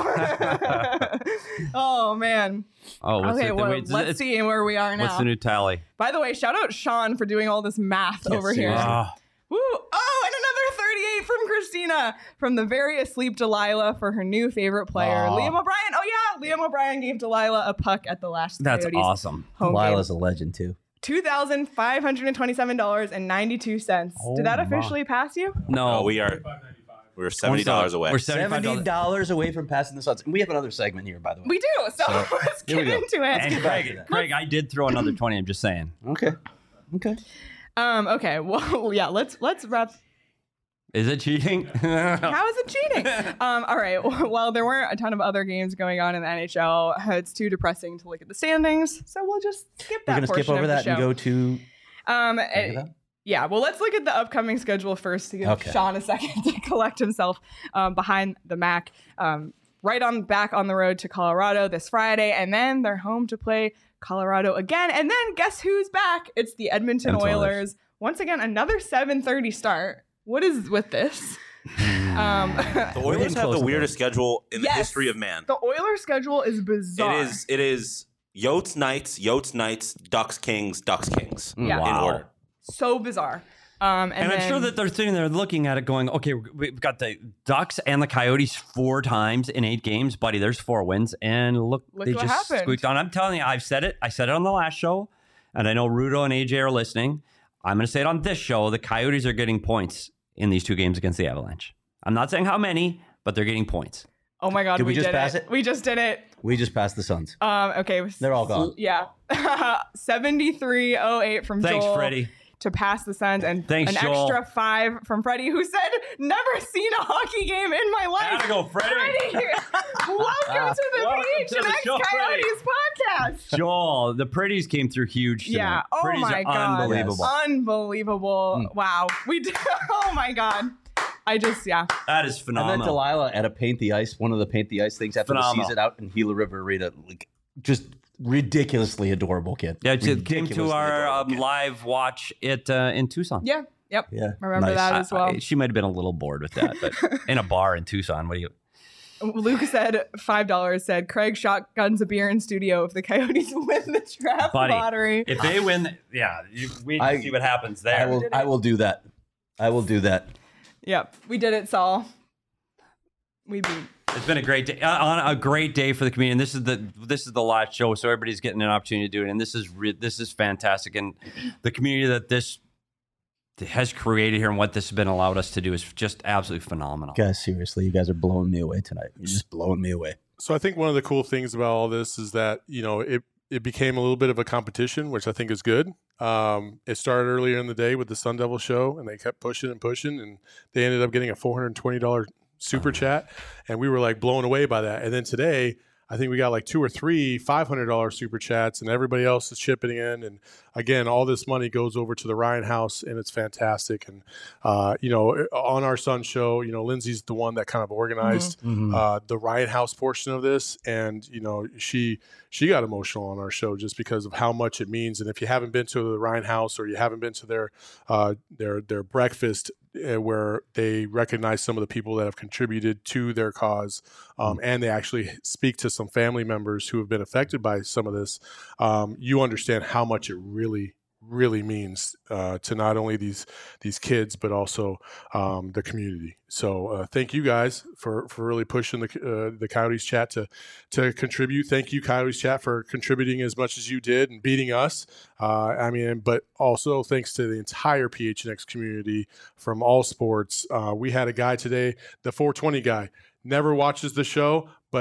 Oh, man. Oh, what's Okay, it? well, Wait, let's it's- see where we are now. What's the new tally? By the way, shout out Sean for doing all this math Yes, over here. seriously. Ah, Woo! Oh, and another thirty-eight from Christina from the very asleep Delilah for her new favorite player, Aw. Liam O'Brien. Oh yeah, Liam O'Brien gave Delilah a puck at the last that's Coyotes awesome. home Lila's game. a legend too. Two thousand five hundred and twenty-seven dollars and ninety-two cents. Oh Did that my. officially pass you? No, Oh, we are we're seventy dollars away. We're Seventy seventy dollars. dollars away from passing the Suns. We have another segment here, by the way. We do. So, So, let's here we get go. into it. And get back to Craig, that. Craig, I did throw another twenty. I'm just saying. Okay. Okay. Um. Okay. Well, yeah. Let's let's wrap. Is it cheating? How is it cheating? um, all right. Well, there weren't a ton of other games going on in the N H L. It's too depressing to look at the standings, so we'll just skip that. We're gonna skip portion over of the that and show. go to. Um, Look at that. yeah. Well, let's look at the upcoming schedule first to give Okay. Sean a second to collect himself um, behind the Mac. Um, right on back on the road to Colorado this Friday, and then they're home to play Colorado again. And then guess who's back? It's the Edmonton Edmonton Oilers. Oilers. Once again, another seven thirty start. What is with this? um, The We're Oilers getting have close the to weirdest schedule in Yes. the history of man. the Oilers schedule is bizarre. It is it is Yotes Knights, Yotes Knights, Ducks Kings, Ducks Kings Yeah. in Wow. order. so bizarre. Um, and And I'm then, sure that they're sitting there looking at it going, okay, we've got the Ducks and the Coyotes four times in eight games. Buddy, there's four wins. And look, Look they what just happened. squeaked on. I'm telling you, I've said it. I said it on the last show. And I know Rudo and A J are listening. I'm going to say it on this show. The Coyotes are getting points in these two games against the Avalanche. I'm not saying how many, but they're getting points. oh my God, Did we just did pass it. it? We just did it. We just passed the Suns. Um, okay. They're all gone. Yeah. seventy-three oh eight from Thanks, Joel Freddie. to pass the Suns, and Thanks, an Joel. extra five from Freddie, who said, never seen a hockey game in my life. Gotta go, Freddie. Freddie, welcome to the Welcome P H to N the X show, Freddie. Coyotes podcast. Joel, the Pretties came through huge tonight. Yeah. Oh Pretties my are God. unbelievable. Unbelievable. Mm. Wow. We did. Oh my God. I just, yeah. That is And then phenomenal. Delilah at a paint the ice, one of the paint the ice things after Phenomenal. the season out in Gila River Arena, like just ridiculously adorable kid. Yeah, it came to Ridiculously our adorable um, kid. live watch it uh, in Tucson. Yeah. Yep. Yeah, Remember nice. that I- as well. I- she might have been a little bored with that, but in a bar in Tucson, what do you? Luke said five dollars. Said Craig shotguns a beer in studio if the Coyotes win the draft Buddy, lottery. If they win, yeah, you, we I- can see what happens I there. will. I will do that. I will do that. Yep, we did it, Saul. We beat. It's been a great day, uh, on a great day for the community. And this is the this is the last show, so everybody's getting an opportunity to do it. And this is re- this is fantastic. And the community that this has created here and what this has been allowed us to do is just absolutely phenomenal. Guys, seriously, you guys are blowing me away tonight. You're just blowing me away. So I think one of the cool things about all this is that, you know, it, it became a little bit of a competition, which I think is good. Um, it started earlier in the day with the Sun Devil show, and they kept pushing and pushing, and they ended up getting a four hundred twenty dollars super chat, and we were like blown away by that. And then today, I think we got like two or three five hundred dollars super chats, and everybody else is chipping in. And again, all this money goes over to the Ryan House, and it's fantastic. And, uh, you know, on our Sun show, you know, Lindsay's the one that kind of organized Mm-hmm. uh, the Ryan House portion of this. And, you know, she she got emotional on our show just because of how much it means. And if you haven't been to the Ryan House or you haven't been to their uh, their their breakfast, uh, where they recognize some of the people that have contributed to their cause, um, and they actually speak to some family members who have been affected by some of this, um, you understand how much it really, really means uh, to not only these these kids but also um, the community. So uh, thank you guys for, for really pushing the uh, the Coyotes chat to to contribute. Thank you, Coyotes chat, for contributing as much as you did and beating us. Uh, I mean, but also thanks to the entire P H N X community from all sports. Uh, we had a guy today, the four twenty guy, never watches the show, but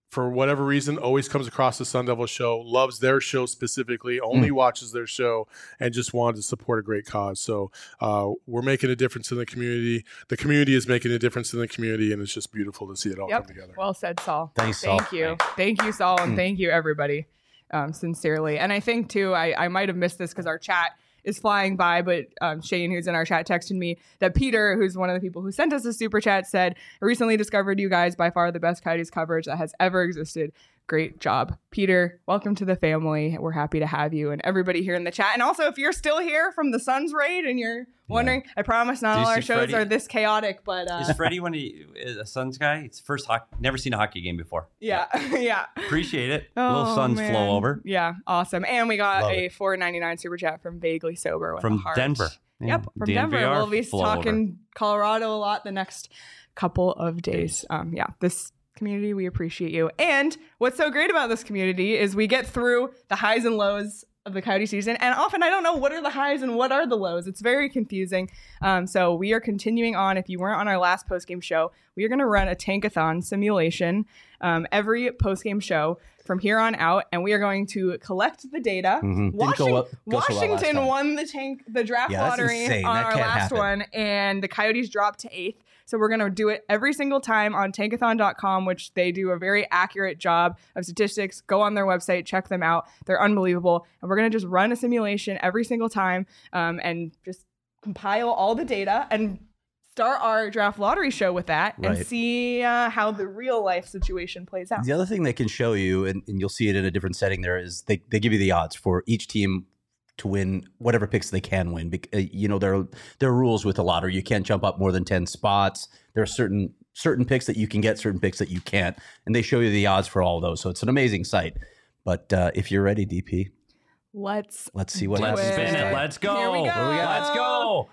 for whatever reason, always comes across the Sun Devil show, loves their show specifically, only mm. watches their show, and just wanted to support a great cause. So uh, we're making a difference in the community. The community is making a difference in the community, and it's just beautiful to see it all yep. come together. Well said, Saul. Thanks, Saul. Thank you. Thank you, Saul, and mm. thank you, everybody, um, sincerely. And I think, too, I, I might have missed this because our chat is flying by, but um, Shane, who's in our chat, texted me that Peter, who's one of the people who sent us a super chat, said, I recently discovered you guys by far the best Coyotes coverage that has ever existed. Great job. Peter, welcome to the family. We're happy to have you and everybody here in the chat. And also, if you're still here from the Suns raid and you're wondering, yeah. I promise not all our shows Freddie? are this chaotic, but... Uh, is Freddie one of you, is a Suns guy? It's first hockey, never seen a hockey game before. Yeah, yeah. Appreciate it. Oh, a little Suns man. flow over. Yeah, awesome. And we got Love a it. four ninety-nine super chat from Vaguely Sober with From a heart. Denver. Yeah. Yep, from D N V R Denver. We'll be flow talking over. Colorado a lot the next couple of days. Um, yeah, this community, we appreciate you. And what's so great about this community is we get through the highs and lows of the Coyote season, and often I don't know what are the highs and what are the lows. It's very confusing. Um, so we are continuing on. If you weren't on our last postgame show, we are going to run a tankathon simulation um, every postgame show from here on out, and we are going to collect the data. Mm-hmm. Washington, go, go so well Washington won the tank, the draft yeah, lottery on that our can't last happen. one, and the Coyotes dropped to eighth. So we're going to do it every single time on tankathon dot com, which they do a very accurate job of statistics. Go on their website, check them out. They're unbelievable. And we're going to just run a simulation every single time um, and just compile all the data and start our draft lottery show with that and Right. see uh, how the real life situation plays out. The other thing they can show you, and, and you'll see it in a different setting there, is they, they give you the odds for each team to win whatever picks they can win. Bec- uh, you know, there are, there are rules with the lottery. You can't jump up more than ten spots. There are certain certain picks that you can get, certain picks that you can't. And they show you the odds for all of those. So it's an amazing site. But uh, if you're ready, D P, Let's let's see what Let's happens. spin it. Let's go. Here we go. What do we got? Let's go.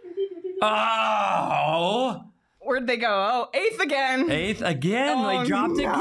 Oh. Where'd they go? Oh, eighth again. Eighth again. Oh, they dropped again.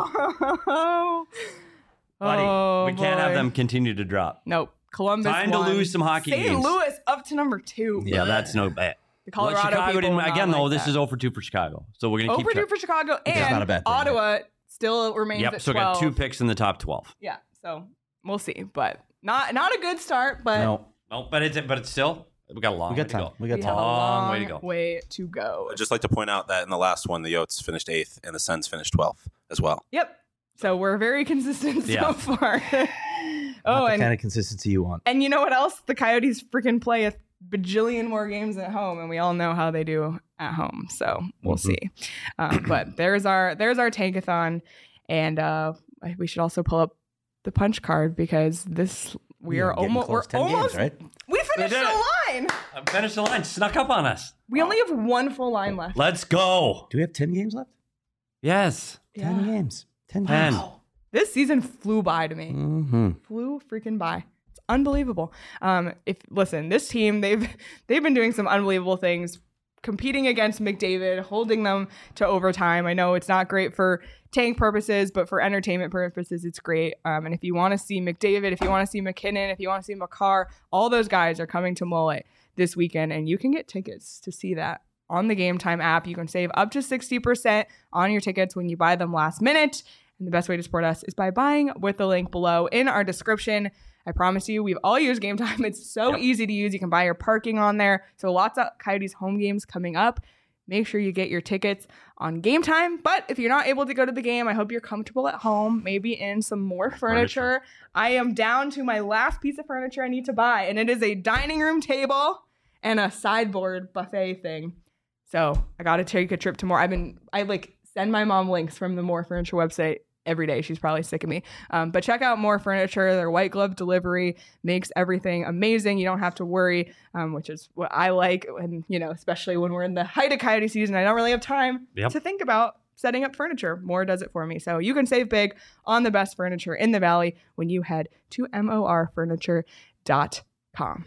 no. Buddy, Oh, we can't have boy. them continue to drop. Nope. Columbus Time to won. lose some hockey Saint games. Louis up to number two. Yeah, that's no bad. The Colorado Well, Chicago people didn't will not again though. like This that. is zero for two for Chicago, so we're gonna keep. Over two track. for Chicago, It's and not a bad thing, Ottawa still remains Yep. at So we twelve. got two picks in the top twelve. Yeah, so we'll see, but not not a good start. But No, No, but it's but it's still we got a long we got way to time. go. We got we time. have a Long long way to go. Way to go. I'd just like to point out that in the last one, the Yotes finished eighth and the Sens finished twelfth as well. Yep. So we're very consistent so Yeah. far. Not oh, the and kind of consistency you want. and you know what else? The Coyotes freaking play a bajillion more games at home, and we all know how they do at home. So we'll Mhm. see. Um, but there's our there's our tankathon, and uh, we should also pull up the punch card because this we Yeah, are getting almost we're close. ten almost games, right? we finished did the it. line. Uh, Finish the line. Snuck up on us. We only have one full line left. Let's go. Do we have ten games left? Yes. Ten Yeah. games. Ten Ten. games. This season flew by to me. Mm-hmm. Flew freaking by. It's unbelievable. Um, if listen, this team they've they've been doing some unbelievable things, competing against McDavid, holding them to overtime. I know it's not great for tank purposes, but for entertainment purposes, it's great. Um, and if you want to see McDavid, if you want to see McKinnon, if you want to see Makar, all those guys are coming to Mullet this weekend, and you can get tickets to see that on the Game Time app. You can save up to sixty percent on your tickets when you buy them last minute. And the best way to support us is by buying with the link below in our description. I promise you, we've all used Game Time. It's so Yep. easy to use. You can buy your parking on there. So lots of Coyotes home games coming up. Make sure you get your tickets on Game Time. But if you're not able to go to the game, I hope you're comfortable at home, maybe in some more furniture. Furniture. I am down to my last piece of furniture I need to buy, and it is a dining room table and a sideboard buffet thing. So I got to take a trip to More. I've been, I like send my mom links from the More Furniture website every day. She's probably sick of me. Um, but check out More Furniture. Their white glove delivery makes everything amazing. You don't have to worry, um, which is what I like. And, you know, especially when we're in the height of Coyote season, I don't really have time Yep. to think about setting up furniture. More does it for me. So you can save big on the best furniture in the Valley when you head to more furniture dot com.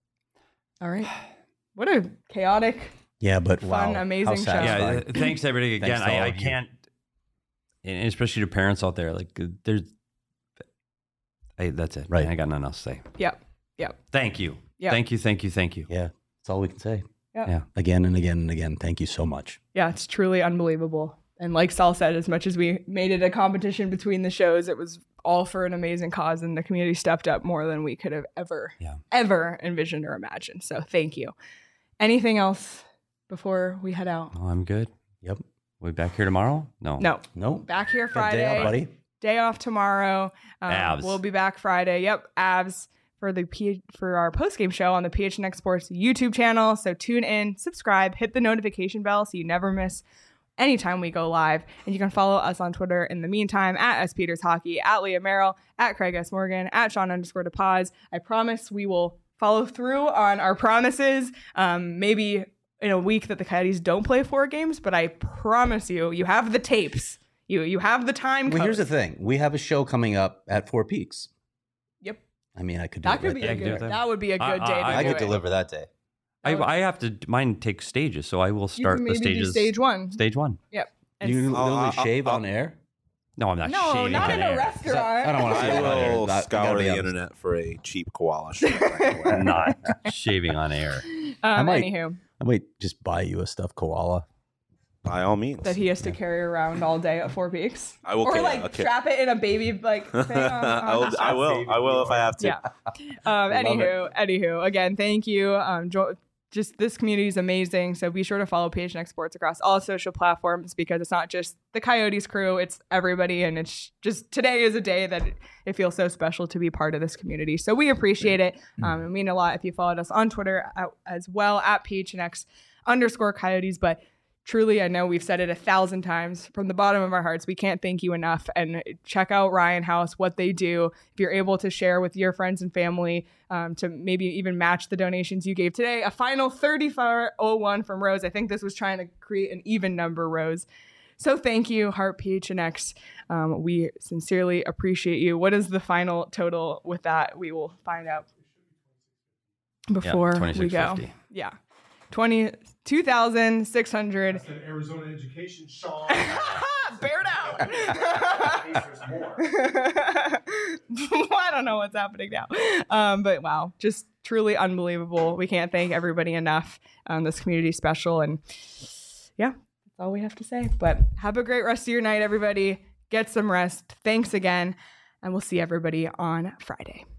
All right. What a chaotic, Yeah, but Fun, wow, amazing how show. satisfying. Yeah. Thanks everybody again. Thanks to all I, I of you. can't, and especially to parents out there. Like there's, hey, that's it. Right. I got nothing else to say. Yep. Yep. Thank you. Yep. Thank you. Thank you. Thank you. Yeah, that's all we can say. Yep. Yeah. Again and again and again. Thank you so much. Yeah, it's truly unbelievable. and like Saul said, as much as we made it a competition between the shows, it was all for an amazing cause, and the community stepped up more than we could have ever, Yeah. ever envisioned or imagined. So thank you. Anything else before we head out? Oh, I'm good. Yep. We back here tomorrow? No. No. Nope. Back here Got Friday. day off, buddy. Day off tomorrow. Um, Avs. We'll be back Friday. Yep, Avs for the P- for our post game show on the P H N X Sports YouTube channel. So tune in, subscribe, hit the notification bell so you never miss anytime we go live. And you can follow us on Twitter in the meantime at S Peters Hockey, at Leah Merrill, at Craig S Morgan, at Sean underscore DePaz. I promise we will follow through on our promises. Um, maybe in a week that the Coyotes don't play four games, but I promise you, you have the tapes. You you have the time. Well, here's the code. thing. We have a show coming up at Four Peaks. Yep. I mean, I could do That it could right be there. a I can do good. that. That would be a I- good I- day. To I I do could it. deliver that day. I, I have to, mine takes stages, so I will You start can the maybe do stages. stage one. Stage one. Yep. And You can s- I'll- literally I'll- shave I'll- on air? No, I'm not no, shaving not on in air. a restaurant. I don't want to I shave on air. will That- scour gotta be the honest. internet for a cheap koala shirt. I'm not shaving on air. Um, might- anywho, I might just buy you a stuffed koala. By all means. that he has to carry around all day at Four Peaks. I will Or carry- like I'll carry- strap it in a baby like thing. On, I will. on I will. I will if I have to. Yeah. Um, anywho, anywho, again, thank you. Um, jo- just this community is amazing. So be sure to follow P H N X Sports across all social platforms because it's not just the Coyotes crew, it's everybody. And it's just today is a day that it, it feels so special to be part of this community. So we appreciate it. Um, it mean a lot if you followed us on Twitter at, as well at P H N X underscore Coyotes. But truly, I know we've said it a thousand times from the bottom of our hearts. We can't thank you enough. And check out Ryan House, what they do. If you're able to share with your friends and family um, to maybe even match the donations you gave today, a final thirty-four oh one from Rose. I think this was trying to create an even number, Rose. So thank you, Heart P H N X. Um, we sincerely appreciate you. What is the final total with that? We will find out before we go. twenty-six fifty. Yeah. twenty, two thousand six hundred. That's an Arizona education, Sean. Bear down. I don't know what's happening now. Um, but wow, just truly unbelievable. We can't thank everybody enough. Um, this community is special. And yeah, that's all we have to say. But have a great rest of your night, everybody. Get some rest. Thanks again. And we'll see everybody on Friday.